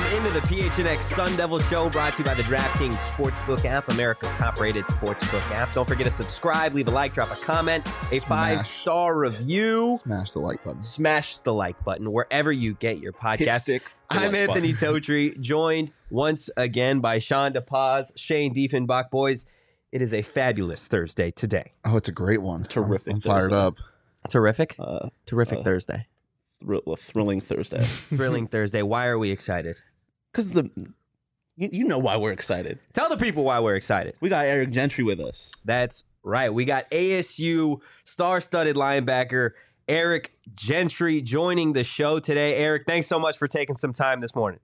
into the PHNX Sun Devil Show, brought to you by the DraftKings Sportsbook app, America's top-rated sportsbook app. Don't forget to subscribe, leave a like, drop a comment, a 5-star review. Smash the like button. Smash the like button wherever you get your podcast. I'm like Anthony Totri, joined once again by Sean DePaz, Shane Diefenbach. Boys, it is a fabulous Thursday today. Oh, it's a great one. Terrific I'm fired Thursday. up. Terrific? Terrific Thursday. Thrilling Thursday. Thrilling Thursday. Why are we excited? Because you know why we're excited. Tell the people why we're excited. We got Eric Gentry with us. That's right. We got ASU star-studded linebacker Eric Gentry joining the show today. Eric, thanks so much for taking some time this morning.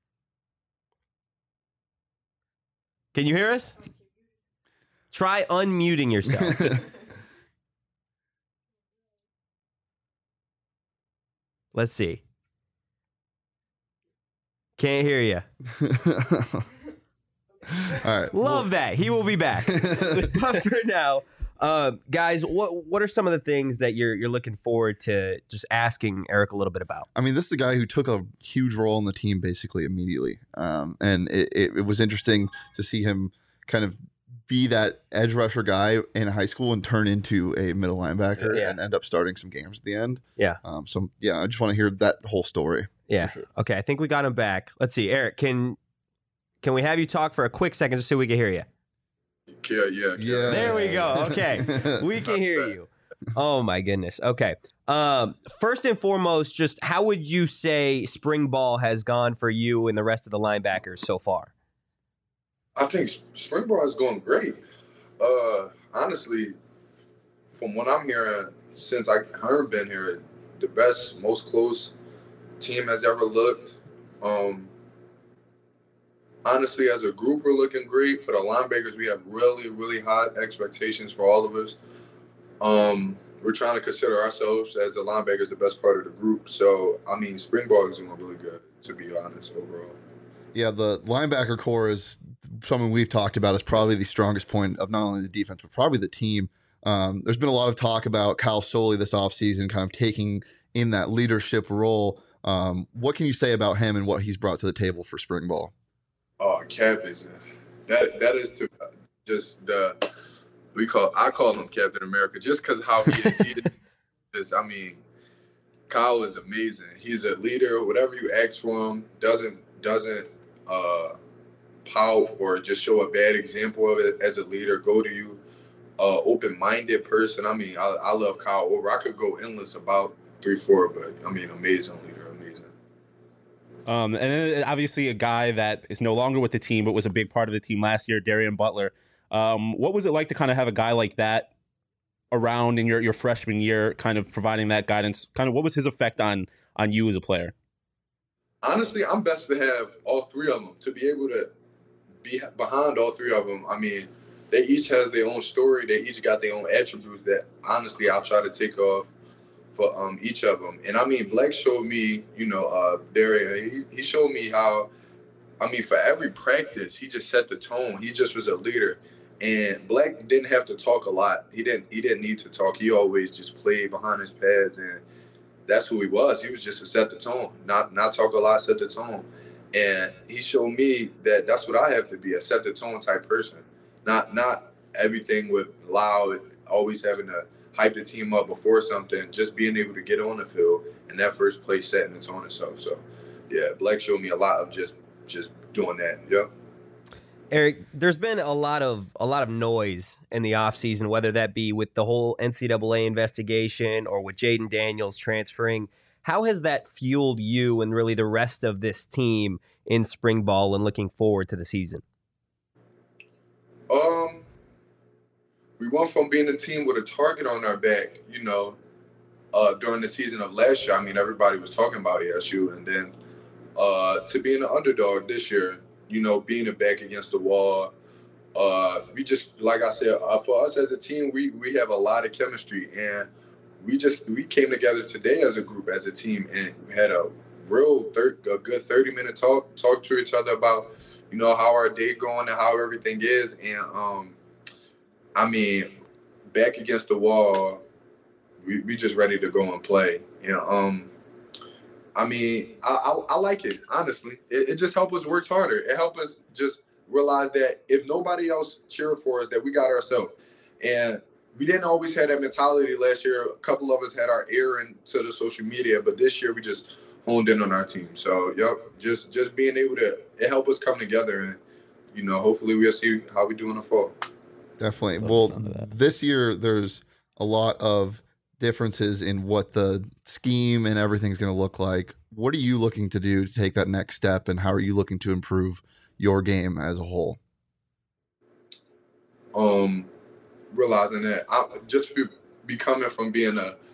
Can you hear us? Try unmuting yourself. Let's see. Can't hear you. All right. Love that. He will be back. But for now, guys, what are some of the things that you're looking forward to just asking Eric a little bit about? I mean, this is a guy who took a huge role in the team basically immediately. And it was interesting to see him kind of be that edge rusher guy in high school and turn into a middle linebacker and end up starting some games at the end. Yeah. I just want to hear that whole story. Yeah. Okay. I think we got him back. Let's see. Eric, can we have you talk for a quick second just so we can hear you? Yeah. There we go. Okay. We can hear you. Oh my goodness. Okay. First and foremost, just how would you say spring ball has gone for you and the rest of the linebackers so far? I think spring ball is going great. Honestly, from what I'm hearing, since I haven't been here, the best, most close team has ever looked. Honestly, as a group, we're looking great. For the linebackers, we have really, really high expectations for all of us. We're trying to consider ourselves as the linebackers the best part of the group. So, I mean, spring ball is going really good, to be honest, overall. Yeah, the linebacker core is something we've talked about as probably the strongest point of not only the defense, but probably the team. There's been a lot of talk about Kyle Soley this offseason kind of taking in that leadership role. What can you say about him and what he's brought to the table for spring ball? Oh, Cap is that is to just I call him Captain America just because how he is. He is. I mean, Kyle is amazing. He's a leader. Whatever you ask for him, doesn't pout or just show a bad example of it as a leader. Go to you, open-minded person. I mean, I love Kyle over. I could go endless about 3-4, but I mean, amazing leader, amazing. And then obviously a guy that is no longer with the team, but was a big part of the team last year, Darian Butler. What was it like to kind of have a guy like that around in your freshman year, kind of providing that guidance? Kind of what was his effect on you as a player? Honestly, I'm best to have all three of them, to be able to be behind all three of them. I mean, they each has their own story. They each got their own attributes that, honestly, I'll try to take off for each of them. And, I mean, Black showed me, Darian, he showed me how, I mean, for every practice, he just set the tone. He just was a leader. And Black didn't have to talk a lot. He didn't need to talk. He always just played behind his pads, and that's who he was. He was just to set the tone, not talk a lot, set the tone. And he showed me that that's what I have to be, a set the tone type person. Not everything with loud, always having to hype the team up before something, just being able to get on the field and that first play setting the tone itself. So, yeah, Black showed me a lot of just doing that. Yeah. Eric, there's been a lot of noise in the offseason, whether that be with the whole NCAA investigation or with Jaden Daniels transferring. How has that fueled you and really the rest of this team in spring ball and looking forward to the season? We went from being a team with a target on our back, during the season of last year. I mean, everybody was talking about ASU, and then to being an underdog this year, being a back against the wall. We just, like I said, for us as a team, we have a lot of chemistry, and we came together today as a group, as a team, and had a good 30-minute talk to each other about, how our day going and how everything is. And, I mean, back against the wall, we just ready to go and play. I mean, I like it, honestly. It just helps us work harder. It helps us just realize that if nobody else cheered for us, that we got ourselves. And we didn't always have that mentality last year. A couple of us had our ear into the social media, but this year we just honed in on our team. So, yep, just being able to, it helped us come together. And, you know, hopefully we'll see how we do in the fall. Definitely. Well, this year there's a lot of differences in what the scheme and everything's going to look like. What are you looking to do to take that next step, and how are you looking to improve your game as a whole? Realizing that I just be coming from being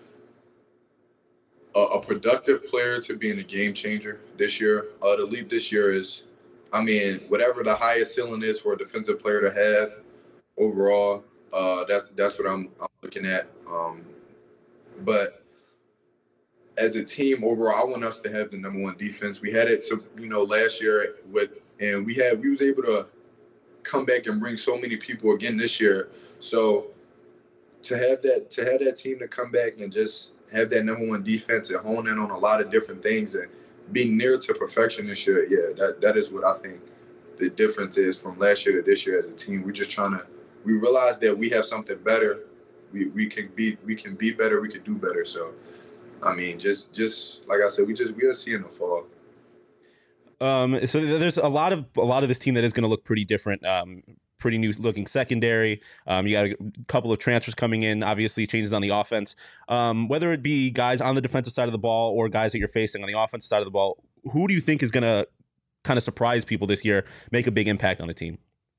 a productive player to being a game changer this year. The leap this year is, I mean, whatever the highest ceiling is for a defensive player to have overall, that's what I'm looking at. But as a team overall, I want us to have the number one defense. We had it, last year and we was able to come back and bring so many people again this year. So to have that team to come back and just have that number one defense and hone in on a lot of different things and be near to perfection this year, yeah, that is what I think the difference is from last year to this year as a team. We're just we realize that we have something better. We can be better. We can do better. So, I mean, just like I said, we'll see in the fall. So there's a lot of this team that is going to look pretty different. Pretty new looking secondary. You got a couple of transfers coming in, obviously changes on the offense. Whether it be guys on the defensive side of the ball or guys that you're facing on the offensive side of the ball, who do you think is going to kind of surprise people this year, make a big impact on the team?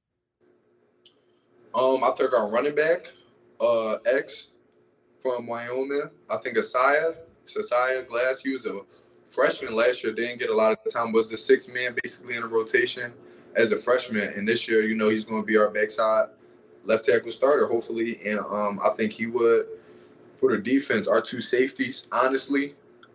I think our running back, X from Wyoming. I think Asaya Glass, he was a freshman last year, didn't get a lot of time, was the sixth man basically in a rotation as a freshman. And this year, he's going to be our backside left tackle starter, hopefully. And I think he would, for the defense, our two safeties, honestly,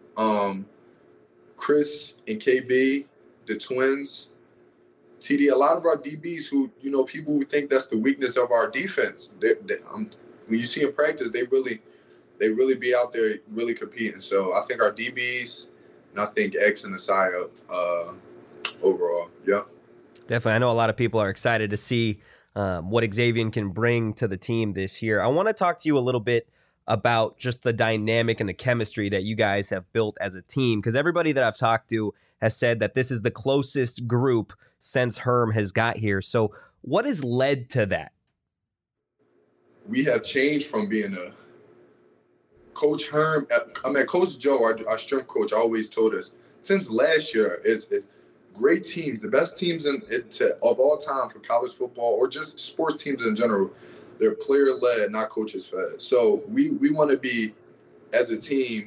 Chris and KB, the twins, TD, a lot of our DBs who, people who think that's the weakness of our defense. When you see in practice, they really be out there really competing. So I think our DBs, and I think X and Asaya overall, yeah. Definitely. I know a lot of people are excited to see what Xavier can bring to the team this year. I want to talk to you a little bit about just the dynamic and the chemistry that you guys have built as a team, because everybody that I've talked to has said that this is the closest group since Herm has got here. So what has led to that? We have changed from being a Coach Herm, Coach Joe, our strength coach, always told us since last year, it's great teams, the best teams of all time for college football or just sports teams in general, they're player-led, not coaches-fed. So we want to be, as a team,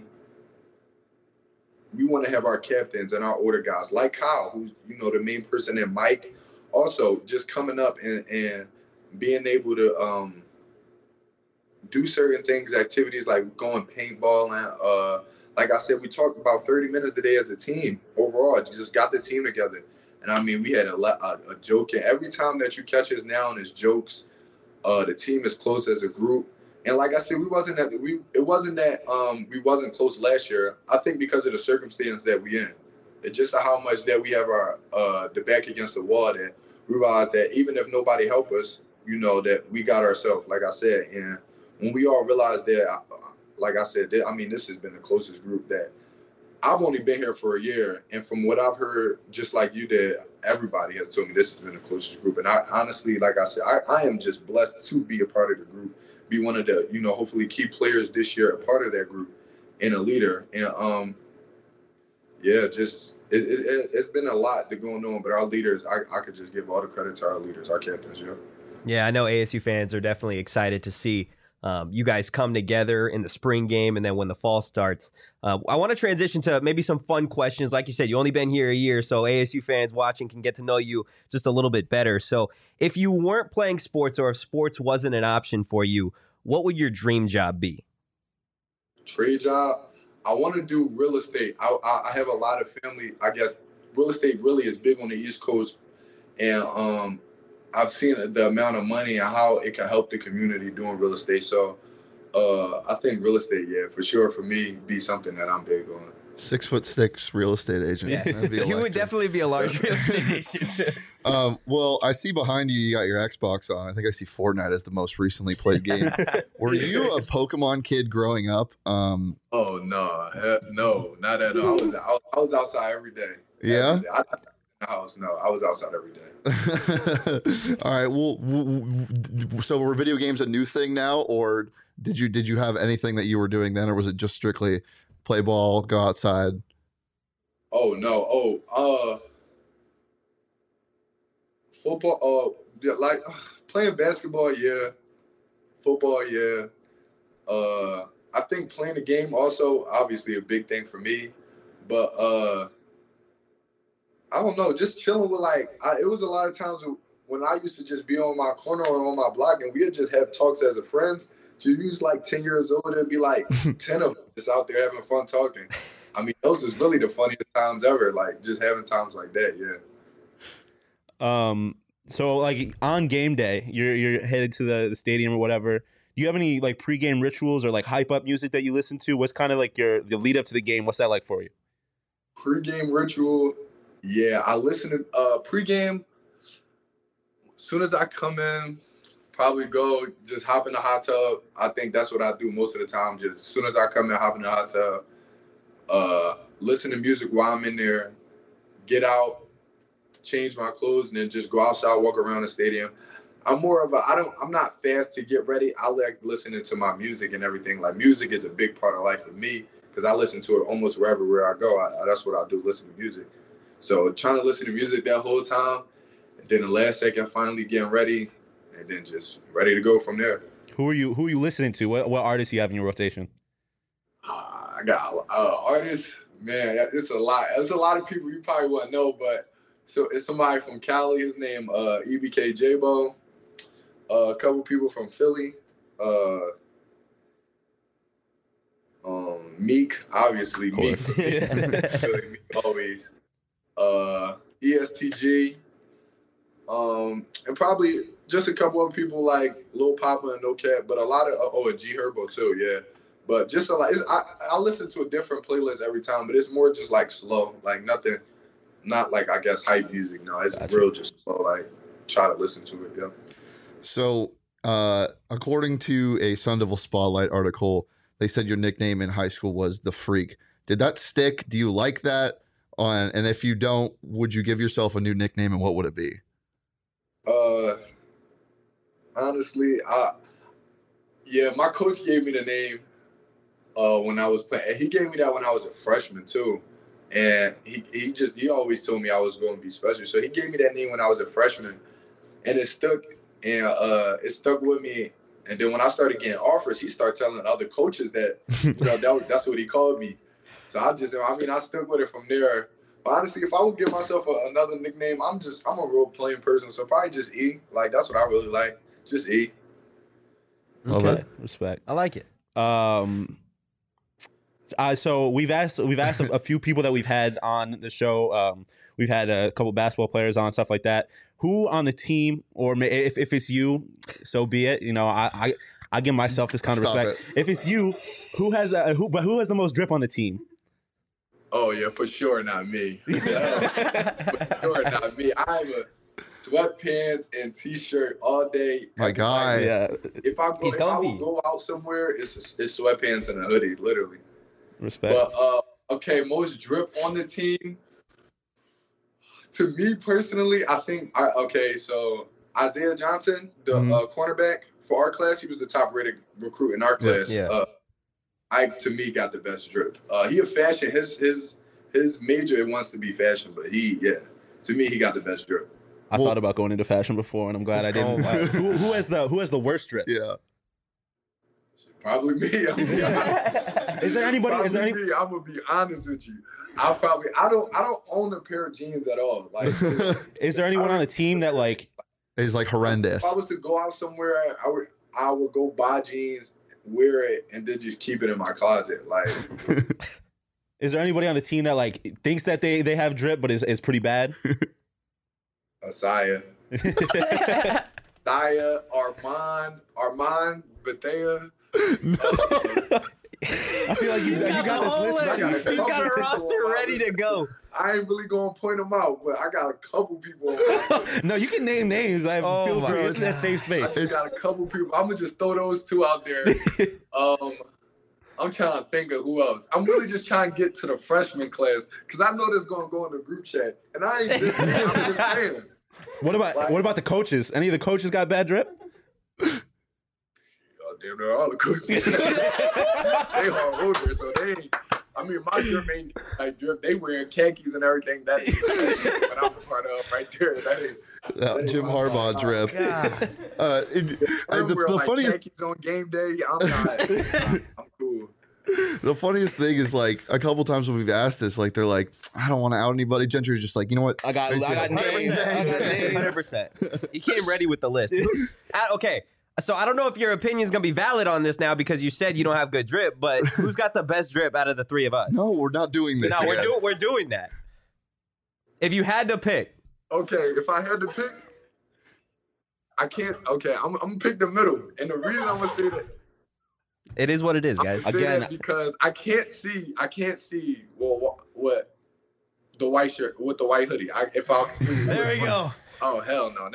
we want to have our captains and our order guys like Kyle, who's, the main person, and Mike also just coming up and being able to do certain things, activities like going paintball. And like I said, we talked about 30 minutes a day as a team overall. You just got the team together. And I mean, we had a joke. And every time that you catch us now and it's jokes, the team is close as a group. And like I said, it wasn't that we wasn't close last year. I think because of the circumstance that we in. It's just how much that we have our the back against the wall that we realized that even if nobody helped us, that we got ourselves, like I said. And when we all realized that, like I said, this has been the closest group that I've only been here for a year. And from what I've heard, just like you did, everybody has told me this has been the closest group. And I honestly, like I said, I am just blessed to be a part of the group, be one of the, hopefully key players this year, a part of that group and a leader. And it's been a lot that going on, but our leaders, I could just give all the credit to our leaders, our captains, yeah. Yeah, I know ASU fans are definitely excited to see you guys come together in the spring game and then when the fall starts. I want to transition to maybe some fun questions. Like you said, you only been here a year, so ASU fans watching can get to know you just a little bit better. So if you weren't playing sports or if sports wasn't an option for you, what would your dream job be? Trade job? I want to do real estate. I have a lot of family. I guess real estate really is big on the East Coast. And I've seen the amount of money and how it can help the community doing real estate. So I think real estate, yeah, for sure, for me, be something that I'm big on. 6'6" real estate agent. Yeah. That'd be You would electric. definitely be a large real estate agent. Well, I see behind you, you got your Xbox on. I think I see Fortnite as the most recently played game. Were you a Pokemon kid growing up? Oh no, no, not at all. I was outside every day. Yeah? Every day. I in the house. No, I was outside every day. All right. Well, so were video games a new thing now, or did you have anything that you were doing then, or was it just strictly play ball, go outside? Oh no. Football. Yeah, like playing basketball. Yeah. Football. Yeah. I think playing the game also obviously a big thing for me, but I don't know, just chilling with it was a lot of times when I used to just be on my corner or on my block and we'd just have talks as a friends. So you was like 10 years old, it'd be like 10 of us just out there having fun talking. I mean, those is really the funniest times ever, like just having times like that, yeah. So like on game day, you're headed to the stadium or whatever. Do you have any like pregame rituals or like hype up music that you listen to? What's kind of like the lead up to the game? What's that like for you? Pre-game ritual, yeah. I listen to pre-game. As soon as I come in, probably go just hop in the hot tub. I think that's what I do most of the time. Just as soon as I come in, hop in the hot tub, listen to music while I'm in there, get out, change my clothes, and then just go outside, walk around the stadium. I'm more of I'm not fast to get ready. I like listening to my music and everything. Like music is a big part of life for me because I listen to it almost where I go. That's what I do, listen to music. So trying to listen to music that whole time, and then the last second finally getting ready, and then just ready to go from there. Who are you listening to? What artists you have in your rotation? I got artists, man. It's a lot. There's a lot of people you probably wouldn't know, but so it's somebody from Cali. His name EBK J-Bo. A couple people from Philly. Meek, obviously. Meek always. ESTG. And probably just a couple of people like Lil Papa and No Cap, but a lot of and G Herbo too, yeah. But just a lot. I listen to a different playlist every time, but it's more just like slow, like nothing, not like I guess hype music. No, it's real just slow. Like try to listen to it, yeah. So, according to a Sun Devil Spotlight article, they said your nickname in high school was the Freak. Did that stick? Do you like that? And if you don't, would you give yourself a new nickname, and what would it be? Honestly, my coach gave me the name when I was playing. He gave me that when I was a freshman too, and he always told me I was going to be special. So he gave me that name when I was a freshman, and it stuck. And it stuck with me. And then when I started getting offers, he started telling other coaches that, that's what he called me. So I stuck with it from there. But honestly, if I would give myself another nickname, I'm a real plain person. So probably just E. Like, that's what I really like. Just E. Okay. Respect. I like it. So we've asked a few people that we've had on the show. We've had a couple basketball players on, stuff like that. Who on the team, or if it's you, so be it. I give myself this kind of respect. If it's you, who has the most drip on the team? Oh yeah, for sure not me. For sure not me. I'm a sweatpants and t-shirt all day. My guy. Yeah. If I would go out somewhere, it's sweatpants and a hoodie, literally. Respect. But okay, most drip on the team. To me personally, I think so Isaiah Johnson, the cornerback for our class, he was the top rated recruit in our class. Yeah. Ike to me got the best drip. He a fashion. His major it wants to be fashion, but to me he got the best drip. I thought about going into fashion before, and I'm glad I didn't. Who has the worst drip? Yeah. Probably me. I'm gonna be honest. Is there anybody? Me. I'm gonna be honest with you. I don't own a pair of jeans at all. Like, is there anyone on the team that like is like horrendous? If I was to go out somewhere, I would go buy jeans, wear it, and then just keep it in my closet. Like, is there anybody on the team that like thinks that they have drip, but is pretty bad? Asaya, Armand, Bethea. I feel like you got this list ready. He's got a roster ready to go. I ain't really gonna point them out, but I got a couple people. On my list. No, you can name names. I feel my free. This is a God. safe I space. just got a couple people. I'm gonna just throw those two out there. I'm trying to think of who else. I'm really just trying to get to the freshman class because I know this gonna go in the group chat, and I ain't just. I'm just saying. What about the coaches? Any of the coaches got bad drip? Damn near all the coaches. They hard older, so they ain't. I mean, my drip ain't like drip. They wearing khakis and everything. That what I'm a part of right there. That ain't Jim my Harbaugh vibe. drip. I'm wearing The like funniest khakis on game day. I'm not. I'm cool. The funniest thing is like a couple times when we've asked this, like they're like, I don't want to out anybody. Gentry's just like, you know what? I got names. 100%. He came ready with the list. Okay, so I don't know if your opinion's gonna be valid on this now because you said you don't have good drip, but who's got the best drip out of the three of us? No, we're not doing this. No, again. we're doing that. If you had to pick, Okay, if I had to pick, I can't. Okay, I'm gonna pick the middle, and the reason I'm gonna say that. it is what it is, guys. I'm gonna say Again- that because I can't see. Well, what the white shirt with the white hoodie. If I see There we go. Oh hell no!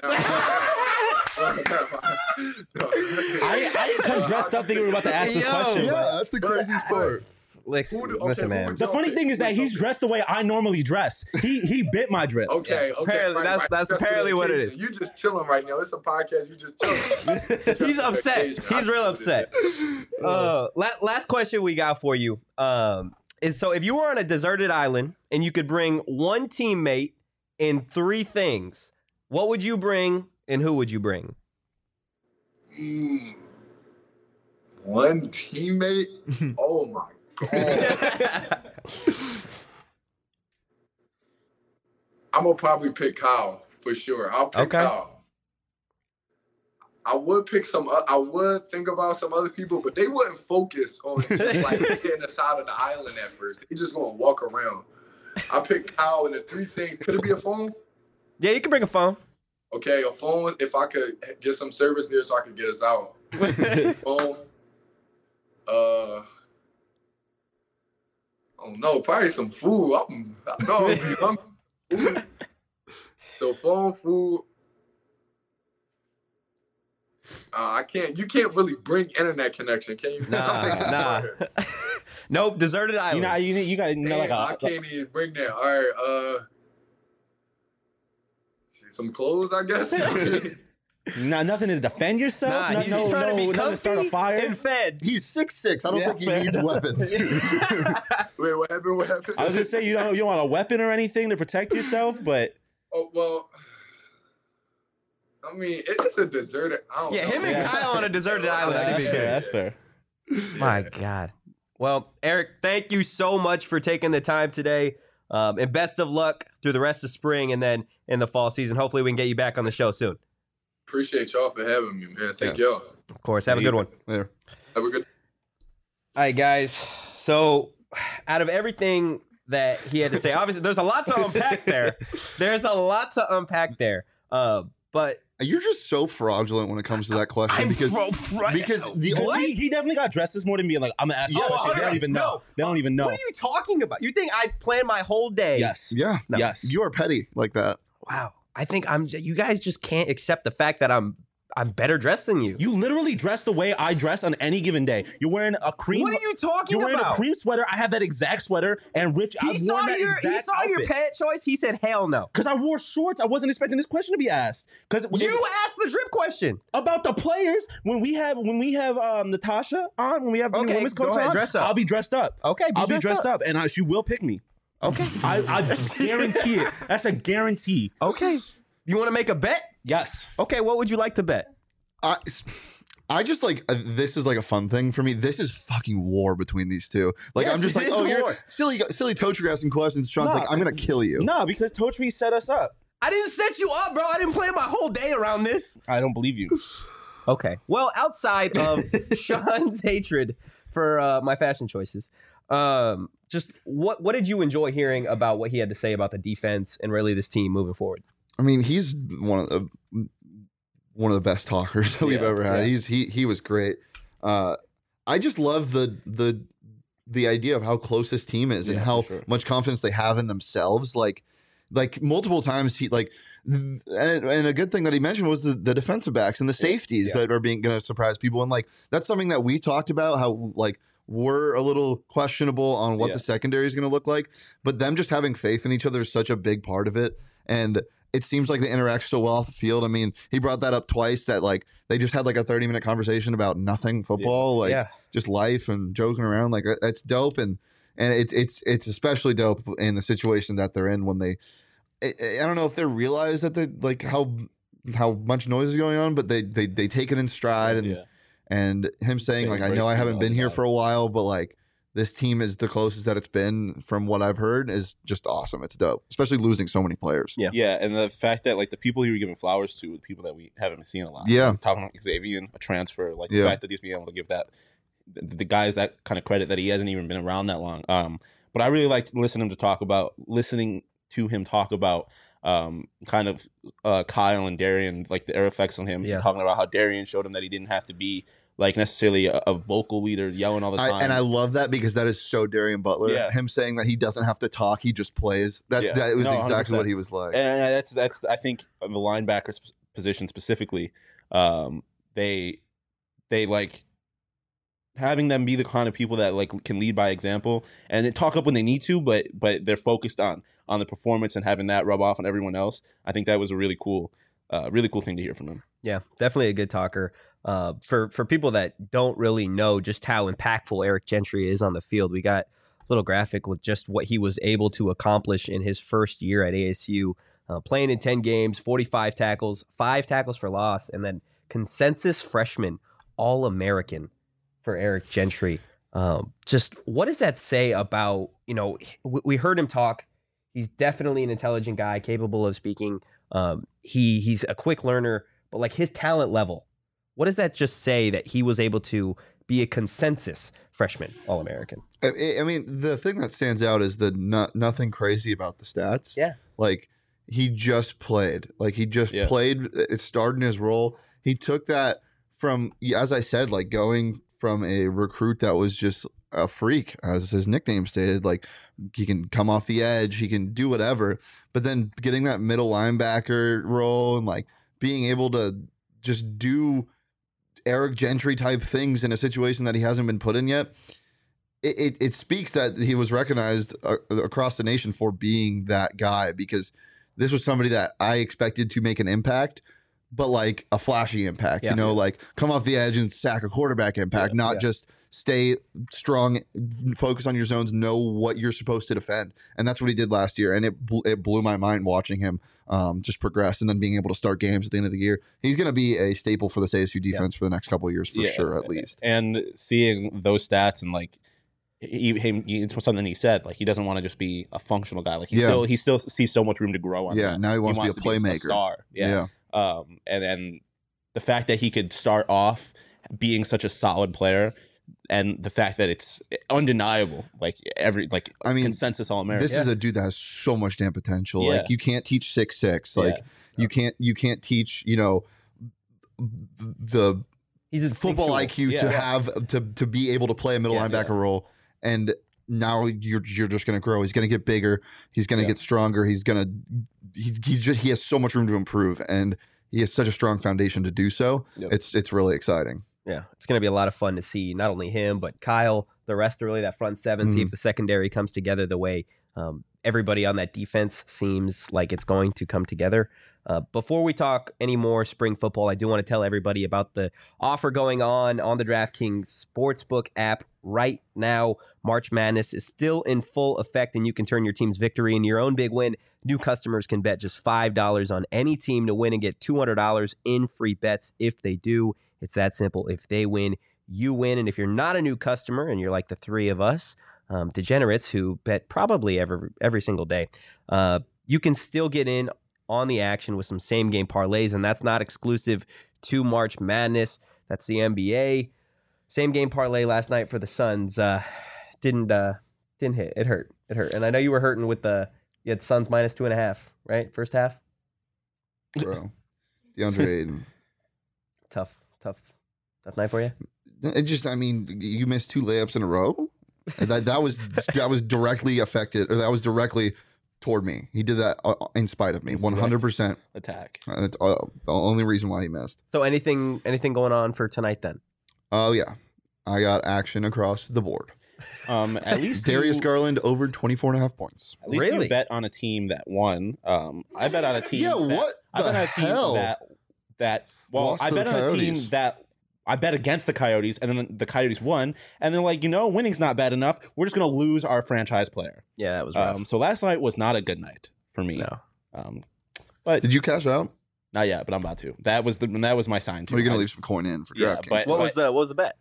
I didn't come dressed up thinking we were about to ask this Yo. question. Yeah, that's the craziest part. Listen, man. The funny thing is that he's dressed the way I normally dress. He bit my drip. Okay, okay. Apparently, that's apparently what it is. You just chilling right now. It's a podcast. You just chilling. He's upset. He's real upset. Last question we got for you is so if you were on a deserted island and you could bring one teammate in three things, what would you bring and who would you bring? One teammate. Oh my god. I'm gonna probably pick Kyle for sure. I'll pick Okay. Kyle. I would pick I would think about some other people, but they wouldn't focus on just like getting aside of the island at first. They just gonna walk around. I pick Kyle, and the three things. Could it be a phone? Yeah, you can bring a phone. Okay, a phone. If I could get some service there, so I could get us out. Phone. Oh no, probably some food. I know I'm hungry. Food. So phone, food. I can't. You can't really bring internet connection, can you? Nah. Nope, deserted island. You got to know like I can't even bring that. All right. Some clothes, I guess. nothing to defend yourself. Nah, he's trying to be nothing to start a comfy fire. and fed. He's 6'6". I don't Yeah, think he fair needs enough. weapons. Wait, what happened? What happened? I was gonna say you don't want a weapon or anything to protect yourself, but Oh well. I mean, it's a deserted. I don't Yeah, know. him and Kyle on a deserted island. I can that's see fair. that. That's fair. My God. Well, Eric, thank you so much for taking the time today. And best of luck through the rest of spring and then in the fall season. Hopefully we can get you back on the show soon. Appreciate y'all for having me, man. Thank y'all. Of course. Have a good one. There. Have a good. All right, guys. So out of everything that he had to say, obviously there's a lot to unpack there. But You're just so fraudulent when it comes to that question because the only He definitely got dressed this morning being like, I'm gonna ask you a question. They don't even know. No. They don't even know. What are you talking about? You think I planned my whole day? Yes. yeah, No. Yes. you are petty like that. Wow. I think you guys just can't accept the fact that I'm better dressed than you. You literally dress the way I dress on any given day. You're wearing a cream. What are you talking You're wearing about? a cream sweater. I have that exact sweater, and Rich, He I've saw worn that your exact your outfit. pet choice. He said, "Hell no." Because I wore shorts. I wasn't expecting this question to be asked. Because You asked the drip question. about the players when we have Natasha on, when we have the Okay, women's go coach ahead, on, dress up. I'll be dressed up. Okay, I'll be dressed up, and she will pick me. Okay. I guarantee it. That's a guarantee. Okay. You want to make a bet? Yes. Okay. What would you like to bet? I just like this is like a fun thing for me. This is fucking war between these two. Like Yes, I'm just it like, is oh, you're war. silly Tocher asking questions. Sean's Nah. like, I'm gonna kill you. No, because Totri set us up. I didn't set you up, bro. I didn't plan my whole day around this. I don't believe you. Okay. Well, outside of Sean's hatred for my fashion choices, just what did you enjoy hearing about what he had to say about the defense and really this team moving forward? I mean, he's one of the best talkers that we've ever had. yeah. He was great. I just love the the idea of how close this team is and Yeah, how for sure. much confidence they have in themselves. Like multiple times he and a good thing that he mentioned was the defensive backs and the safeties Yeah. that are going to surprise people. And like, that's something that we talked about, how like we're a little questionable on what Yeah. the secondary is going to look like, but them just having faith in each other is such a big part of it. And it seems like they interact so well off the field. I mean, he brought that up twice, that like they just had like a 30-minute conversation about nothing football, like just life and joking around. Like it's dope. And it's especially dope in the situation that they're in when I don't know if they realize that they like how much noise is going on, but they take it in stride. And him saying They like, I embrace know I it haven't all been the here time. for a while, but like this team is the closest that it's been from what I've heard, is just awesome. It's dope, especially losing so many players. Yeah. Yeah, and the fact that like the people he were giving flowers to were the people that we haven't been seeing a lot. Yeah. Like, talking about Xavier, a transfer, like the Yeah. fact that he's being able to give that the guys that kind of credit that he hasn't even been around that long. But I really liked listening to him talk about kind of Kyle and Darian, like their effects on him. Yeah. Talking about how Darian showed him that he didn't have to be like necessarily a vocal leader yelling all the time. And I love that because that is so Darian Butler. Yeah. Him saying that he doesn't have to talk, he just plays. Yeah. That was No, exactly 100%. what he was like. And that's I think on the linebacker position specifically, they like having them be the kind of people that like can lead by example and they talk up when they need to, but they're focused on the performance and having that rub off on everyone else. I think that was a really cool thing to hear from him. Yeah, definitely a good talker. For people that don't really know just how impactful Eric Gentry is on the field, we got a little graphic with just what he was able to accomplish in his first year at ASU, playing in 10 games, 45 tackles, 5 tackles for loss, and then consensus freshman All-American for Eric Gentry. Just what does that say about, we heard him talk. He's definitely an intelligent guy, capable of speaking. He's a quick learner, but like his talent level, what does that just say that he was able to be a consensus freshman All-American? I mean, the thing that stands out is the nothing crazy about the stats. Yeah. Like he just played. Like he just played. It started in his role. He took that from, as I said, like going from a recruit that was just a freak, as his nickname stated, like he can come off the edge, he can do whatever, but then getting that middle linebacker role and like being able to just do Eric Gentry type things in a situation that he hasn't been put in yet. It speaks that he was recognized across the nation for being that guy, because this was somebody that I expected to make an impact, but like a flashy impact, like come off the edge and sack a quarterback impact, not just stay strong, focus on your zones, know what you're supposed to defend. And that's what he did last year. And it blew my mind watching him just progress and then being able to start games at the end of the year. He's going to be a staple for this ASU defense for the next couple of years, for sure, at least. And seeing those stats and like, it's something he said, like he doesn't want to just be a functional guy. Like he still sees so much room to grow on. Yeah, now he wants to be a playmaker, a star. Yeah. And then the fact that he could start off being such a solid player, and the fact that it's undeniable, consensus All-American. This is a dude that has so much damn potential. Yeah. Like you can't teach 6'6". Like you can't teach the football IQ to have to be able to play a middle linebacker role. And now you're just going to grow. He's going to get bigger. He's going to get stronger. He has so much room to improve, and he has such a strong foundation to do so. Yep. It's really exciting. Yeah, it's going to be a lot of fun to see not only him, but Kyle, the rest of really that front seven, see if the secondary comes together the way everybody on that defense seems like it's going to come together. Before we talk any more spring football, I do want to tell everybody about the offer going on the DraftKings Sportsbook app right now. March Madness is still in full effect, and you can turn your team's victory into your own big win. New customers can bet just $5 on any team to win and get $200 in free bets if they do. It's that simple. If they win, you win. And if you're not a new customer and you're like the three of us, degenerates who bet probably every single day, you can still get in on the action with some same game parlays, and that's not exclusive to March Madness. That's the NBA. Same game parlay last night for the Suns didn't hit. It hurt. And I know you were hurting with you had Suns -2.5, right? First half. Bro, DeAndre Ayton. Tough night for you. You missed 2 layups in a row. And that was directly affected, or that was directly toward me. He did that in spite of me, 100%. Attack. That's the only reason why he missed. So anything going on for tonight then? Oh yeah, I got action across the board. At least Darius Garland over 24.5 points. At least Really? you bet on a team that won. I bet on a team. Yeah, that, what I bet the on a team hell? that. Well, Lost I to bet the on a team Coyotes. that I bet against the Coyotes, and then the Coyotes won, and they're like, winning's not bad enough. We're just gonna lose our franchise player. Yeah, that was rough. So last night was not a good night for me. No. But Did you cash out? not yet. But I'm about to. That was my sign. Or are you gonna leave some coin in for Yeah, DraftKings? but- What was the bet?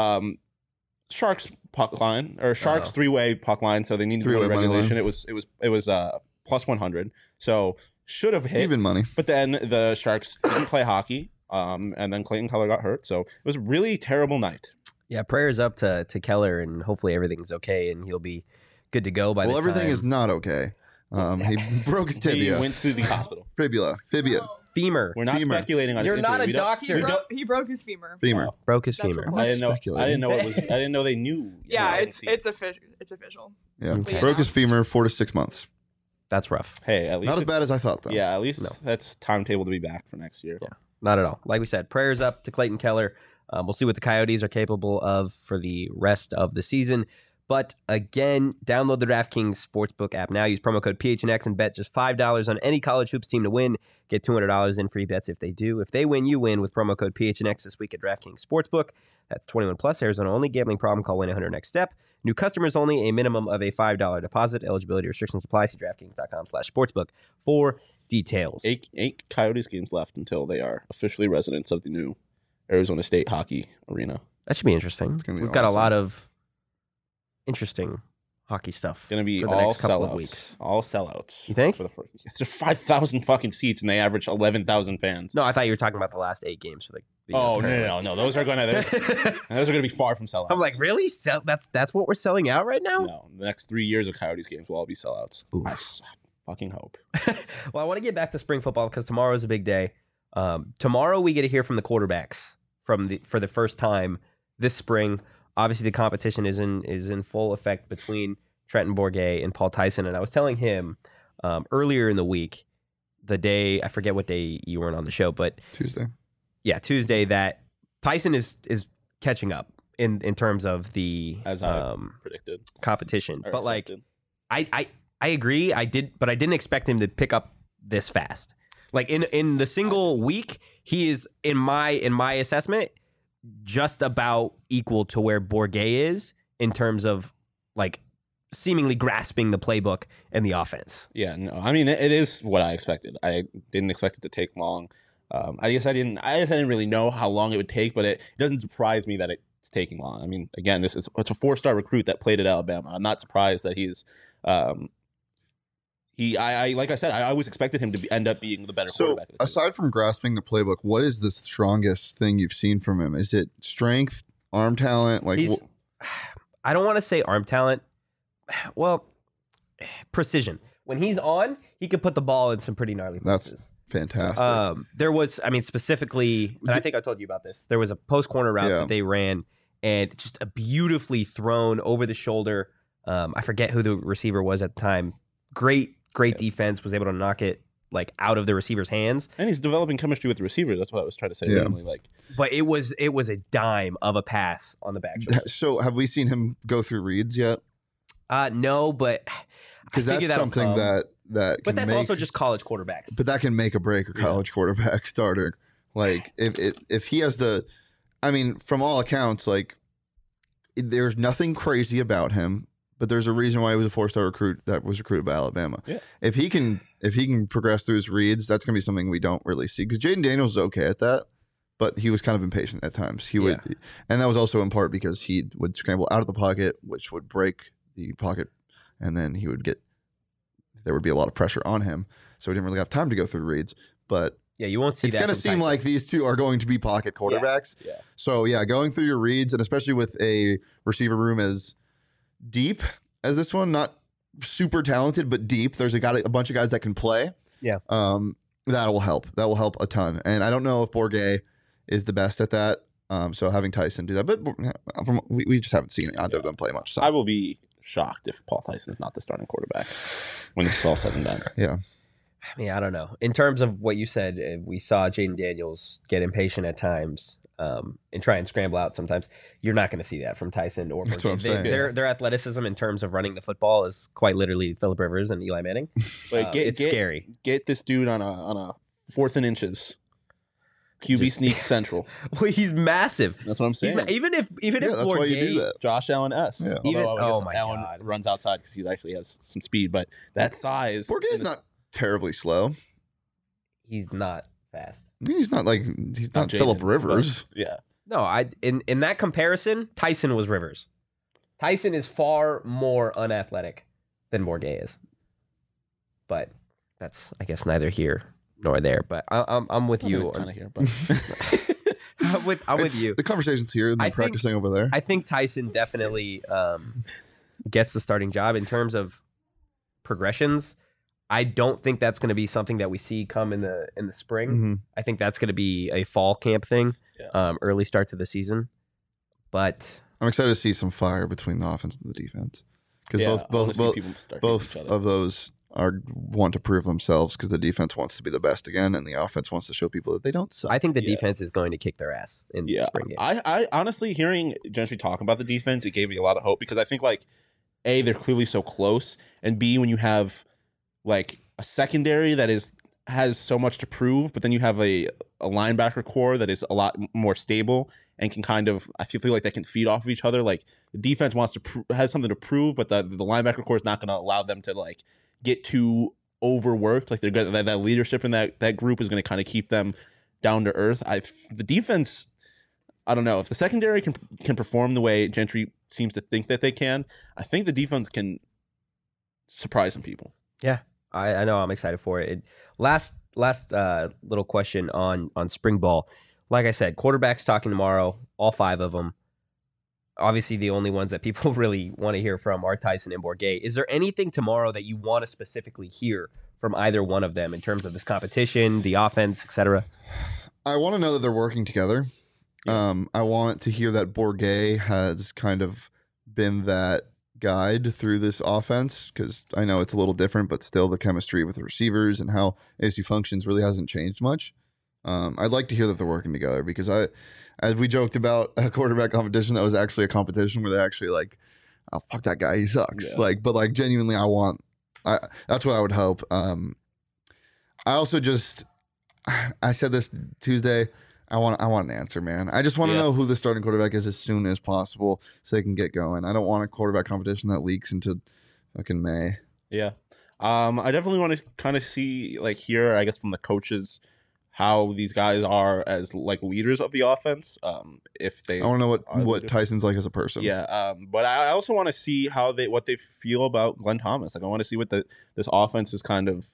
Sharks puck line or Sharks Oh. three-way puck line, so they need to go to Three-way money regulation. line. It was plus 100, so should have hit. Even money. But then the Sharks didn't play hockey, and then Clayton Keller got hurt, so it was a really terrible night. Yeah, prayers up to Keller, and hopefully everything's okay, and he'll be good to go by the Well, time. everything is not okay. He broke his He tibia, went to the hospital. fibula, femur. We're not Femur. speculating on You're his not injury. a We don't- doctor. He broke his femur. femur. Broke his That's femur. what- I didn't know. speculating. I didn't know they knew. Yeah, I didn't it's see. it's official. It's official. Yeah, Okay. broke his Announced. femur 4 to 6 months. That's rough. Hey, at least Not as it's- bad as I thought, though. Yeah, at least No. that's timetable to be back for next year. Yeah. Not at all. Like we said, prayers up to Clayton Keller. We'll see what the Coyotes are capable of for the rest of the season. But again, download the DraftKings Sportsbook app now. Use promo code PHNX and bet just $5 on any college hoops team to win. Get $200 in free bets if they do. If they win, you win with promo code PHNX this week at DraftKings Sportsbook. That's 21 plus. Arizona only. Gambling problem? Call 1-800-NEXT-STEP. New customers only. A minimum of a $5 deposit. Eligibility restrictions apply. See DraftKings.com/sportsbook for details. Eight Coyotes games left until they are officially residents of the new Arizona State Hockey Arena. That should be interesting. gonna be We've got a awesome. lot of interesting hockey stuff. Going to be for the all next couple sellouts. of weeks. All sellouts. You think? For the first, there's 5,000 fucking seats and they average 11,000 fans. No, I thought you were talking about the last 8 games for the. Oh no! Those are going to those are going to be far from sellouts. I'm like, really? That's what we're selling out right now? No, the next 3 years of Coyotes games will all be sellouts. Oof. I fucking hope. Well, I want to get back to spring football because tomorrow is a big day. Tomorrow we get to hear from the quarterbacks for the first time this spring. Obviously, the competition is in full effect between Trenton Bourguet and Paul Tyson. And I was telling him earlier in the week, the day I forget what day you weren't on the show, but Tuesday. yeah, Tuesday, that Tyson is catching up in terms of the As I predicted. competition. or But like, expected. I agree. I didn't expect him to pick up this fast. Like in the single week, he is in my assessment just about equal to where Bourguet is in terms of like seemingly grasping the playbook and the offense. Yeah, no, I mean it is what I expected. I didn't expect it to take long. I guess I didn't really know how long it would take, but it doesn't surprise me that it's taking long. I mean, again, it's a 4-star recruit that played at Alabama. I'm not surprised that he's like I said, I always expected him to end up being the better So, quarterback. of the team. aside from grasping the playbook, what is the strongest thing you've seen from him? Is it strength, arm talent? Like, He's, I don't want to say arm talent. Well, precision. When he's on, he could put the ball in some pretty gnarly That's places. fantastic. There was, I mean, specifically, and I think I told you about this. There was a post corner route Yeah. that they ran, and just a beautifully thrown over the shoulder. I forget who the receiver was at the time. Great defense. Was able to knock it like out of the receiver's hands. And he's developing chemistry with the receivers. That's what I was trying to say. Yeah. Namely, like But it was a dime of a pass on the back shoulder. So, have we seen him go through reads yet? No, but Because I that's figure that'll something come. that. But can that's make, also just college quarterbacks. But that can make or break a college quarterback starter. Like, if he has the, I mean, from all accounts, like, there's nothing crazy about him. But there's a reason why he was a 4-star recruit that was recruited by Alabama. Yeah. If he can progress through his reads, that's gonna be something we don't really see. Because Jaden Daniels is okay at that, but he was kind of impatient at times. He would, and that was also in part because he would scramble out of the pocket, which would break the pocket, and then there would be a lot of pressure on him, so he didn't really have time to go through the reads. But yeah, you won't see it's that. gonna from seem Tyson. like these two are going to be pocket quarterbacks. Yeah. So yeah, going through your reads, and especially with a receiver room as deep as this one, not super talented, but deep. There's a bunch of guys that can play. Yeah. That will help. That will help a ton. And I don't know if Bourguet is the best at that. So having Tyson do that, but we just haven't seen either of them play much. So I will be shocked if Paul Tyson is not the starting quarterback when it's all said and done. yeah, I mean, I don't know. In terms of what you said, we saw Jaden Daniels get impatient at times and try and scramble out sometimes. You're not going to see that from Tyson or That's what I'm saying. Their athleticism in terms of running the football is quite literally Phillip Rivers and Eli Manning. But It's scary. Get this dude on a 4th and inches. QB Just- sneak central. Well, he's massive. That's what I'm He's saying. even if that's why you do Bourget- that. Josh Allen S. Yeah. Even- Although I guess oh my Allen God. runs outside because he actually has some speed, but that size. Bourget is not terribly slow. he's not fast. He's not Phillip Jaden, Rivers. but, yeah. No, in that comparison, Tyson was Rivers. Tyson is far more unathletic than Bourget is. But that's, I guess, neither here nor there. But I'm with you. Kind of here, but I'm with you. The conversation's here, and I they're think- practicing over there. I think Tyson definitely gets the starting job in terms of progressions. I don't think that's going to be something that we see come in the spring. Mhm. I think that's going to be a fall camp thing, early start to the season. But I'm excited to see some fire between the offense and the defense because yeah, I wanna both see both people start hitting both each other. of those want to prove themselves because the defense wants to be the best again, and the offense wants to show people that they don't suck. I think the Yeah. defense is going to kick their ass in the Yeah, spring game. I honestly, hearing Gentry talk about the defense, it gave me a lot of hope because I think, like, A, they're clearly so close, and B, when you have like a secondary that has so much to prove, but then you have a linebacker core that is a lot more stable and can kind of, I feel like they can feed off of each other. Like, the defense wants to has something to prove, but the linebacker core is not going to allow them to like get too overworked. Like, they're gonna, that leadership in that group is going to kind of keep them down to earth. The defense, I don't know if the secondary can perform the way Gentry seems to think that they can. I think the defense can surprise some people. Yeah, I know. I'm excited for it. Last little question on spring ball. Like I said, quarterbacks talking tomorrow, all 5 of them. Obviously, the only ones that people really want to hear from are Tyson and Bourget. Is there anything tomorrow that you want to specifically hear from either one of them in terms of this competition, the offense, etc.? I want to know that they're working together. I want to hear that Bourget has kind of been that guide through this offense because I know it's a little different, but still the chemistry with the receivers and how ASU functions really hasn't changed much. I'd like to hear that they're working together because as we joked about a quarterback competition, that was actually a competition where they actually like, oh, fuck that guy, he sucks. Yeah. But genuinely, that's what I would hope. I also I said this Tuesday. I want an answer, man. I just want to Yeah. know who the starting quarterback is as soon as possible so they can get going. I don't want a quarterback competition that leaks into fucking May. Yeah. I definitely want to kind of see, like, hear, I guess, from the coaches how these guys are as like leaders of the offense. If they I want to know are what leaders. Tyson's like as a person. Yeah, but I also want to see what they feel about Glenn Thomas. Like, I want to see what this offense is kind of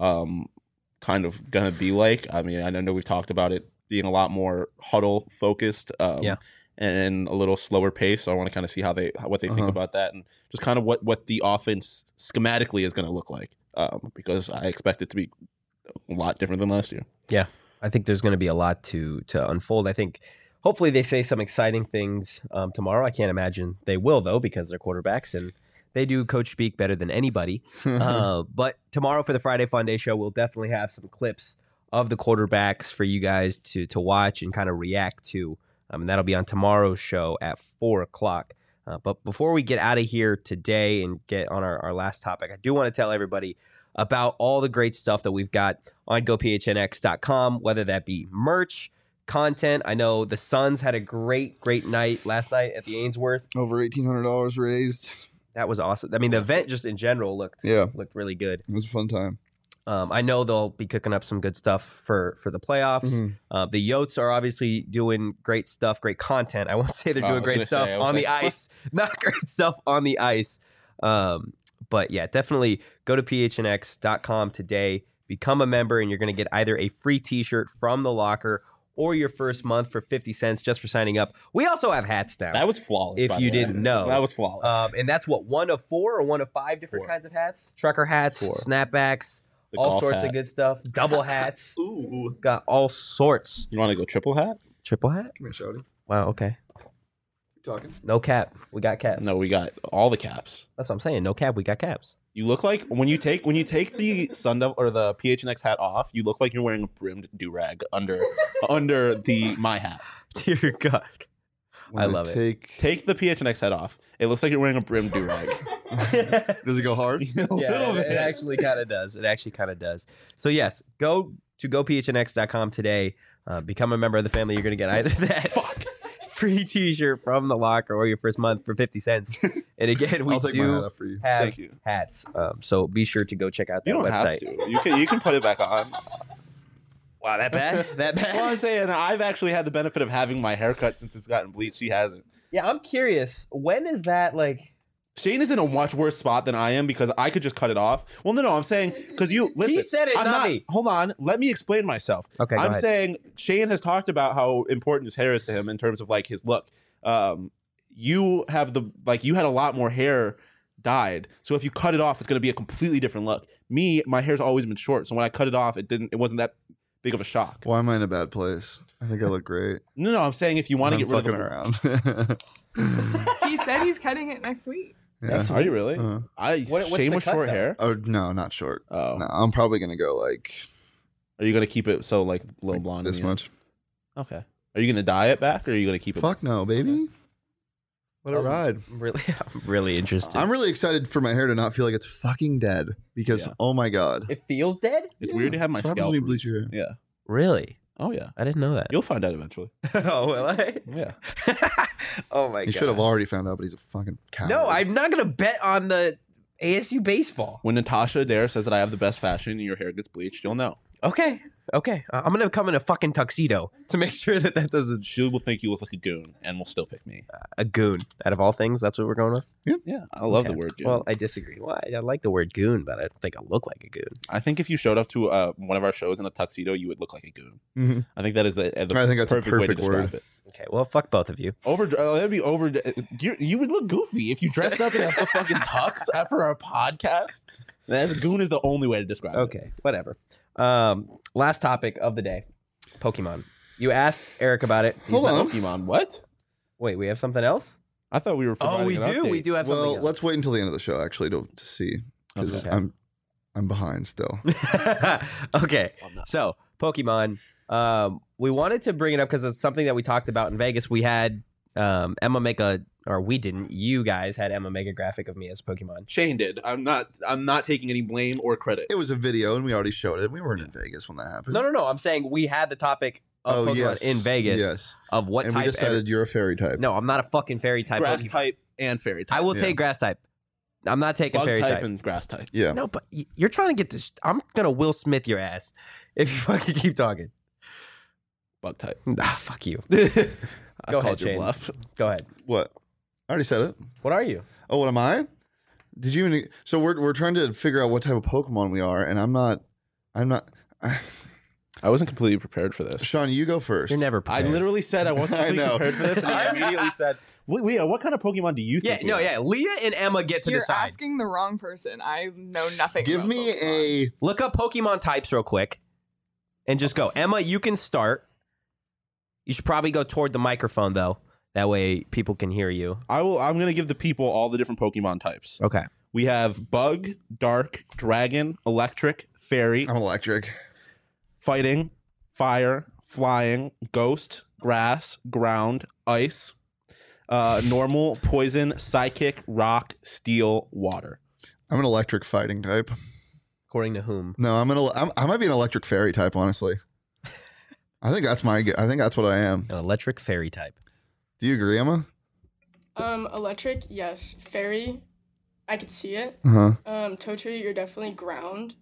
gonna be like. I mean, I know we've talked about it being a lot more huddle focused, and a little slower pace. So I want to kind of see what they think about that, and just kind of what the offense schematically is going to look like. Because I expect it to be a lot different than last year. Yeah, I think there's going to be a lot to unfold. I think hopefully they say some exciting things tomorrow. I can't imagine they will, though, because they're quarterbacks and they do coach speak better than anybody. But tomorrow for the Friday Fun Day show, we'll definitely have some clips of the quarterbacks for you guys to watch and kind of react to. And that'll be on tomorrow's show at 4 o'clock. But before we get out of here today and get on our last topic, I do want to tell everybody about all the great stuff that we've got on gophnx.com, whether that be merch, content. I know the Suns had a great night last night at the Ainsworth. Over $1,800 raised. That was awesome. I mean, the event just in general looked really good. It was a fun time. I know they'll be cooking up some good stuff for the playoffs. The Yotes are obviously doing great stuff, great content. I won't say they're doing great stuff on the ice, not great stuff on the ice. But yeah, definitely go to phnx.com today, become a member, and you're going to get either a free t-shirt from the locker or your first month for 50 cents just for signing up. We also have hats now. That was flawless. If you didn't know. That was flawless. And that's what, 1 of 4 or 1 of 5 different kinds of hats? Trucker hats, 4. snapbacks, The all golf sorts hat. of good stuff. Double hats. Ooh. Got all sorts. You want to go triple hat? Triple hat? Come here, Shouty. Wow. Okay. Keep talking. No cap. We got caps. No, we got all the caps. That's what I'm saying. No cap. We got caps. You look like when you take the Sundevil or the PHNX hat off, you look like you're wearing a brimmed do-rag under my hat. Dear God. When I love it. Take the PHNX hat off. It looks like you're wearing a brimmed do-rag. Does it go hard? A little Yeah, bit. it actually kind of does. It actually kind of does. So yes, go to gophnx.com today. Become a member of the family. You're gonna get either that free T-shirt from the locker or your first month for 50 cents. And again, we I'll take my hat do off for you. have Thank you. hats. So be sure to go check out that You don't website. have to. You can put it back on. Wow, that bad? That bad? Well, I'm saying I've actually had the benefit of having my haircut since it's gotten bleached. She hasn't. Yeah, I'm curious. When is that like? Shane is in a much worse spot than I am because I could just cut it off. Well, no, I'm saying because you listen. He said it, I'm not me. Hold on, let me explain myself. Okay, go I'm ahead. saying Shane has talked about how important his hair is to him in terms of like his look. You have you had a lot more hair dyed, so if you cut it off, it's going to be a completely different look. Me, my hair's always been short, so when I cut it off, it wasn't that big of a shock. Why am I in a bad place? I think I look great. No, I'm saying if you want to I'm get rid of fucking the around. He said he's cutting it next week. Yeah. Are you really? Uh-huh. What's Shane the with cut, short though? hair. Oh no, not short. Oh, No, I'm probably gonna go like are you gonna keep it so like a little blonde? in this the end? much. Okay. Are you gonna dye it back, or are you gonna keep it? Fuck no, baby. Let it ride. I'm really interested. I'm really excited for my hair to not feel like it's fucking dead because Yeah. oh my god. It feels dead. It's weird to have my What happens scalp. when you bleach bruised. your hair? Yeah. Really? Oh yeah. I didn't know that. You'll find out eventually. Oh, will I? Yeah. Oh my god. He should have already found out, but he's a fucking coward. No, I'm not gonna bet on the ASU baseball. When Natasha Adair says that I have the best fashion and your hair gets bleached, you'll know. Okay. I'm gonna come in a fucking tuxedo to make sure that doesn't She will think you look like a goon and will still pick me. a goon. Out of all things, that's what we're going with. Yeah, I love Okay. the word goon. Well, I disagree. Well, I like the word goon, but I don't think I look like a goon. I think if you showed up to one of our shows in a tuxedo, you would look like a goon. Mhm. I think that is the I think that's a perfect way to perfect describe word. it. Okay. Well, fuck both of you. That'd be over. You would look goofy if you dressed up in a fucking tux after our podcast. Goon is the only way to describe it. Okay. Whatever. Last topic of the day: Pokemon. You asked Eric about it. Hold on. Pokemon. What? Wait, we have something else? I thought we were. Oh, we providing an do. update. We do have Well, something else. let's wait until the end of the show actually to see because Okay. I'm behind still. Okay. I'm not. So, Pokemon. We wanted to bring it up because it's something that we talked about in Vegas. We had Emma make we didn't. You guys had Emma make a graphic of me as Pokemon. Shane did. I'm not taking any blame or credit. It was a video and we already showed it. We weren't in Vegas when that happened. No. I'm saying we had the topic of Pokemon in Vegas Yes. of what And type. we decided you're a fairy type. No, I'm not a fucking fairy type. Grass Pokemon. type and fairy type. I will Yeah. take grass type. I'm not taking Bug fairy type type. and grass type. Yeah. No, but you're trying to get this. I'm gonna Will Smith your ass if you fucking keep talking. Bug type. Ah, fuck you. I Go called ahead, your Shane. bluff. Go ahead. What? I already said it. What are you? Oh, what am I? Did you even? So we're trying to figure out what type of Pokemon we are, and I'm not. I wasn't completely prepared for this. Sean, you go first. You're never I prepared. literally said I wasn't I completely know. prepared for this, and I immediately said, "Leah, what kind of Pokemon do you Yeah, think?" no, we are?" yeah. Leah and Emma get to You're decide. asking the wrong person. I know nothing. Give about me Pokemon. a. Look up Pokemon types real quick, and just go. Emma, you can start. You should probably go toward the microphone though. That way people can hear you. I'm going to give the people all the different Pokemon types. Okay. We have Bug, Dark, Dragon, Electric, Fairy, I'm electric. Fighting, Fire, Flying, Ghost, Grass, Ground, Ice, Normal, Poison, Psychic, Rock, Steel, Water. I'm an electric fighting type. According to whom? No, I might be an electric fairy type. Honestly, I think that's what I am. An electric fairy type. Do you agree, Emma? Electric, yes. Fairy, I could see it. Uh huh. Totri, you're definitely ground.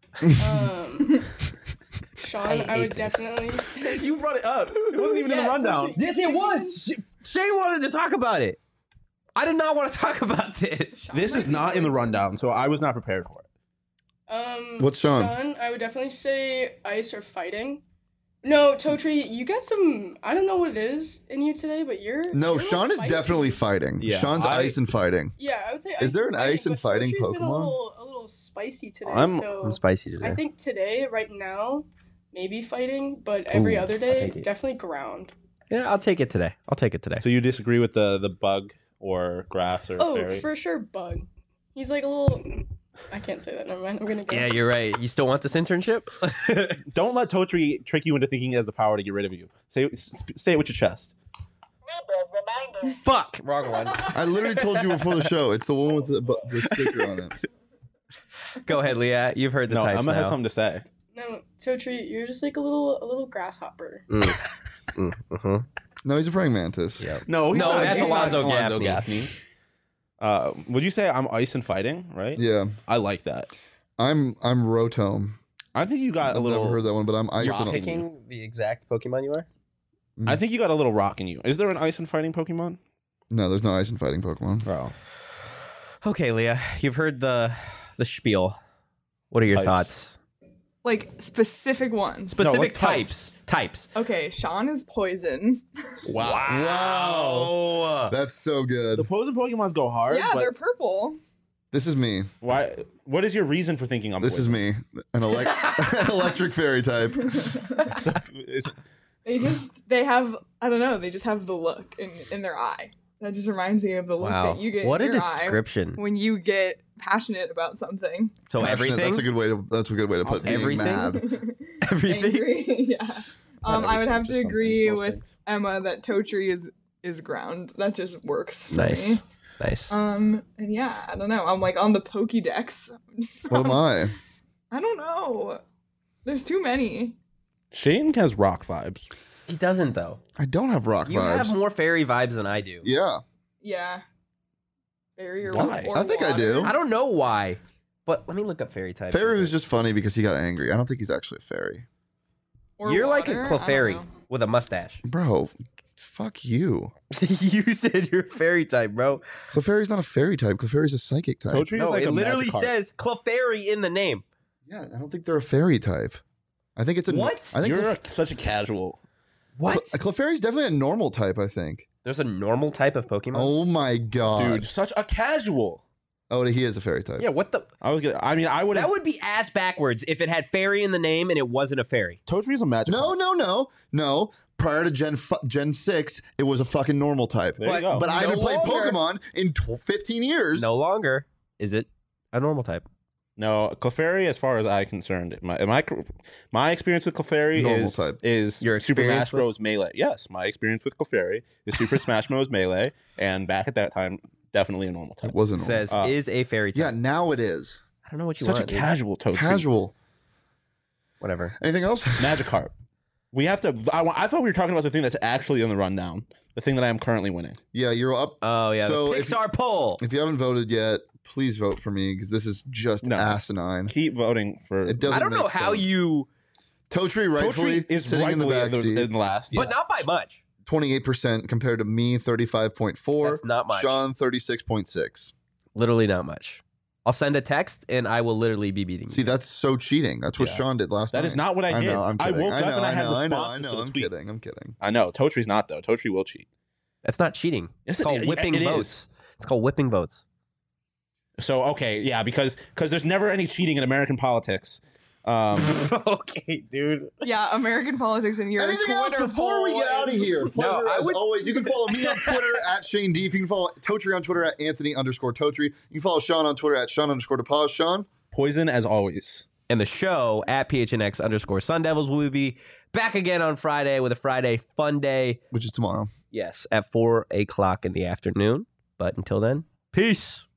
Sean, I I would hate this. definitely say. You brought it up. It wasn't even in the Yeah, rundown. Totri. Yes, it was. Shane wanted to talk about it. I did not want to talk about this. Sean This might is be not in the poison. rundown, so I was not prepared for it. What's Sean? Sean, I would definitely say ice or fighting. No, Totri, you got some. I don't know what it is in you today, but you're. No, you're a little Sean is spicy. definitely fighting. Yeah, Sean's ice and fighting. Yeah, I would say. Is there and an ice and but fighting Totri's been Pokemon? a little spicy today. I'm I'm spicy today. I think today, right now, maybe fighting, but every Ooh, other I'll day, take it. definitely ground. Yeah, I'll take it today. So you disagree with the bug or grass or Oh, fairy? for sure, Bug. He's like a little. I can't say that. Never mind. I'm gonna go. Yeah, you're right. You still want this internship? Don't let Totri trick you into thinking he has the power to get rid of you. Say it with your chest. Fuck, wrong one. I literally told you before the show. It's the one with the sticker on it. Go ahead, Leah. You've heard the No, types I'm gonna now. have something to say. No, Totri, you're just like a little grasshopper. Mm-hmm. No, he's a praying mantis. Yep. No, No, not. that's He's not Alonzo Gaffney. Would you say I'm ice and fighting? Right? Yeah. I like that. I'm Rotom. I think you got I've a little. never heard that one, but I'm ice You're and picking the exact Pokemon you are? I think you got a little rock in you. Is there an ice and fighting Pokemon? No, there's no ice and fighting Pokemon. Oh, Okay, Leah. You've heard the spiel. What are your Types. thoughts? Like specific ones. Specific what types. Types. Okay, Sean is poison. Wow. That's so the good. opposing Pokemons go hard. Yeah, but they're purple. This is me. why? What is your reason for thinking I'm? This is poison? me. An an electric fairy type. So, is- They have, I don't know, they just have the look in their eye. That just reminds me of the look Wow. that you get What a in your eye description. when you get passionate about something. So Passionate, everything? That's a good way to. That's a good way to put being Everything? mad. Everything? Angry, yeah. Not I would everything, have to just some agree things, most with things. Emma that Totri is ground. That just works. For Nice. Me. Nice. And yeah, I don't know. I'm like on the Pokédex. What am I? I don't know. There's too many. Shane has rock vibes. He doesn't, though. I don't have rock You vibes. have more fairy vibes than I do. Yeah. Yeah. Fairy or, Why? or I think I water. do. I don't know why, but let me look up fairy types. Fairy was just funny because he got angry. I don't think he's actually a fairy. Or You're like a water, I don't Clefairy know. with a mustache. Bro, fuck you. You said you're a fairy type, bro. Clefairy's not a fairy type. Clefairy's a psychic type. Totri No, is like it a literally Magikarp. says Clefairy in the name. Yeah, I don't think they're a fairy type. I think it's a What? I think You're such a casual. What? Clefairy's definitely a normal type. I think. There's a normal type of Pokemon? Oh my god, Dude, such a casual. Oh, he is a fairy type. Yeah, what the? I would That have. would be ass backwards if it had fairy in the name and it wasn't a fairy. Totri's a magic. No. Prior to Gen 6, it was a fucking normal type. There you go. But I No haven't played longer. Pokemon in 15 years. No longer is it a normal type. No, Clefairy, as far as I'm concerned, my experience with Clefairy Normal type. is Your Super experience Smash Bros. Melee. Yes, my experience with Clefairy is Super Smash Bros. Melee, and back at that time, definitely a normal type. It wasn't It normal. says is a fairy type. Yeah, now it is. I don't know what you Such a want. dude. casual Totri. Casual. Whatever. Anything else? Magikarp. We have to. I thought we were talking about the thing that's actually on the rundown. The thing that I am currently winning. Yeah, you're up. Oh yeah, So the if- Pixar poll. If you haven't voted yet, please vote for me because this is just No. asinine. Keep voting for. It doesn't I don't know make how sense. you, Totri rightfully Totri is sitting in the rightfully back seat. in last. but Yes. not by much. 28% compared to me, 35.4. That's not much. Sean, 36.6. Literally not much. I'll send a text and I will literally be beating See, you. that's so cheating. That's what Yeah. Sean did last night. That is not what I did. know, I'm I kidding. woke up know, and I had know, responses to the I'm tweet. kidding. I'm kidding. I know. Totri's not though. Totri will cheat. That's not cheating. Yes, It's called it- whipping it is. votes. It's called whipping votes. So okay, yeah, because there's never any cheating in American politics. Okay, dude. Yeah, American politics and your Anything else Twitter before we get poll out of is- here? Pleasure, I as would- always. You can follow me on Twitter at Shane Deef. You can follow Totri on Twitter at Anthony_Totri. You can follow Sean on Twitter at Sean_DePause. Sean? Poison as always. And the show at PHNX_Sun Devils will be back again on Friday with a Friday fun day. Which is tomorrow. Yes, at 4 o'clock in the afternoon. But until then, peace.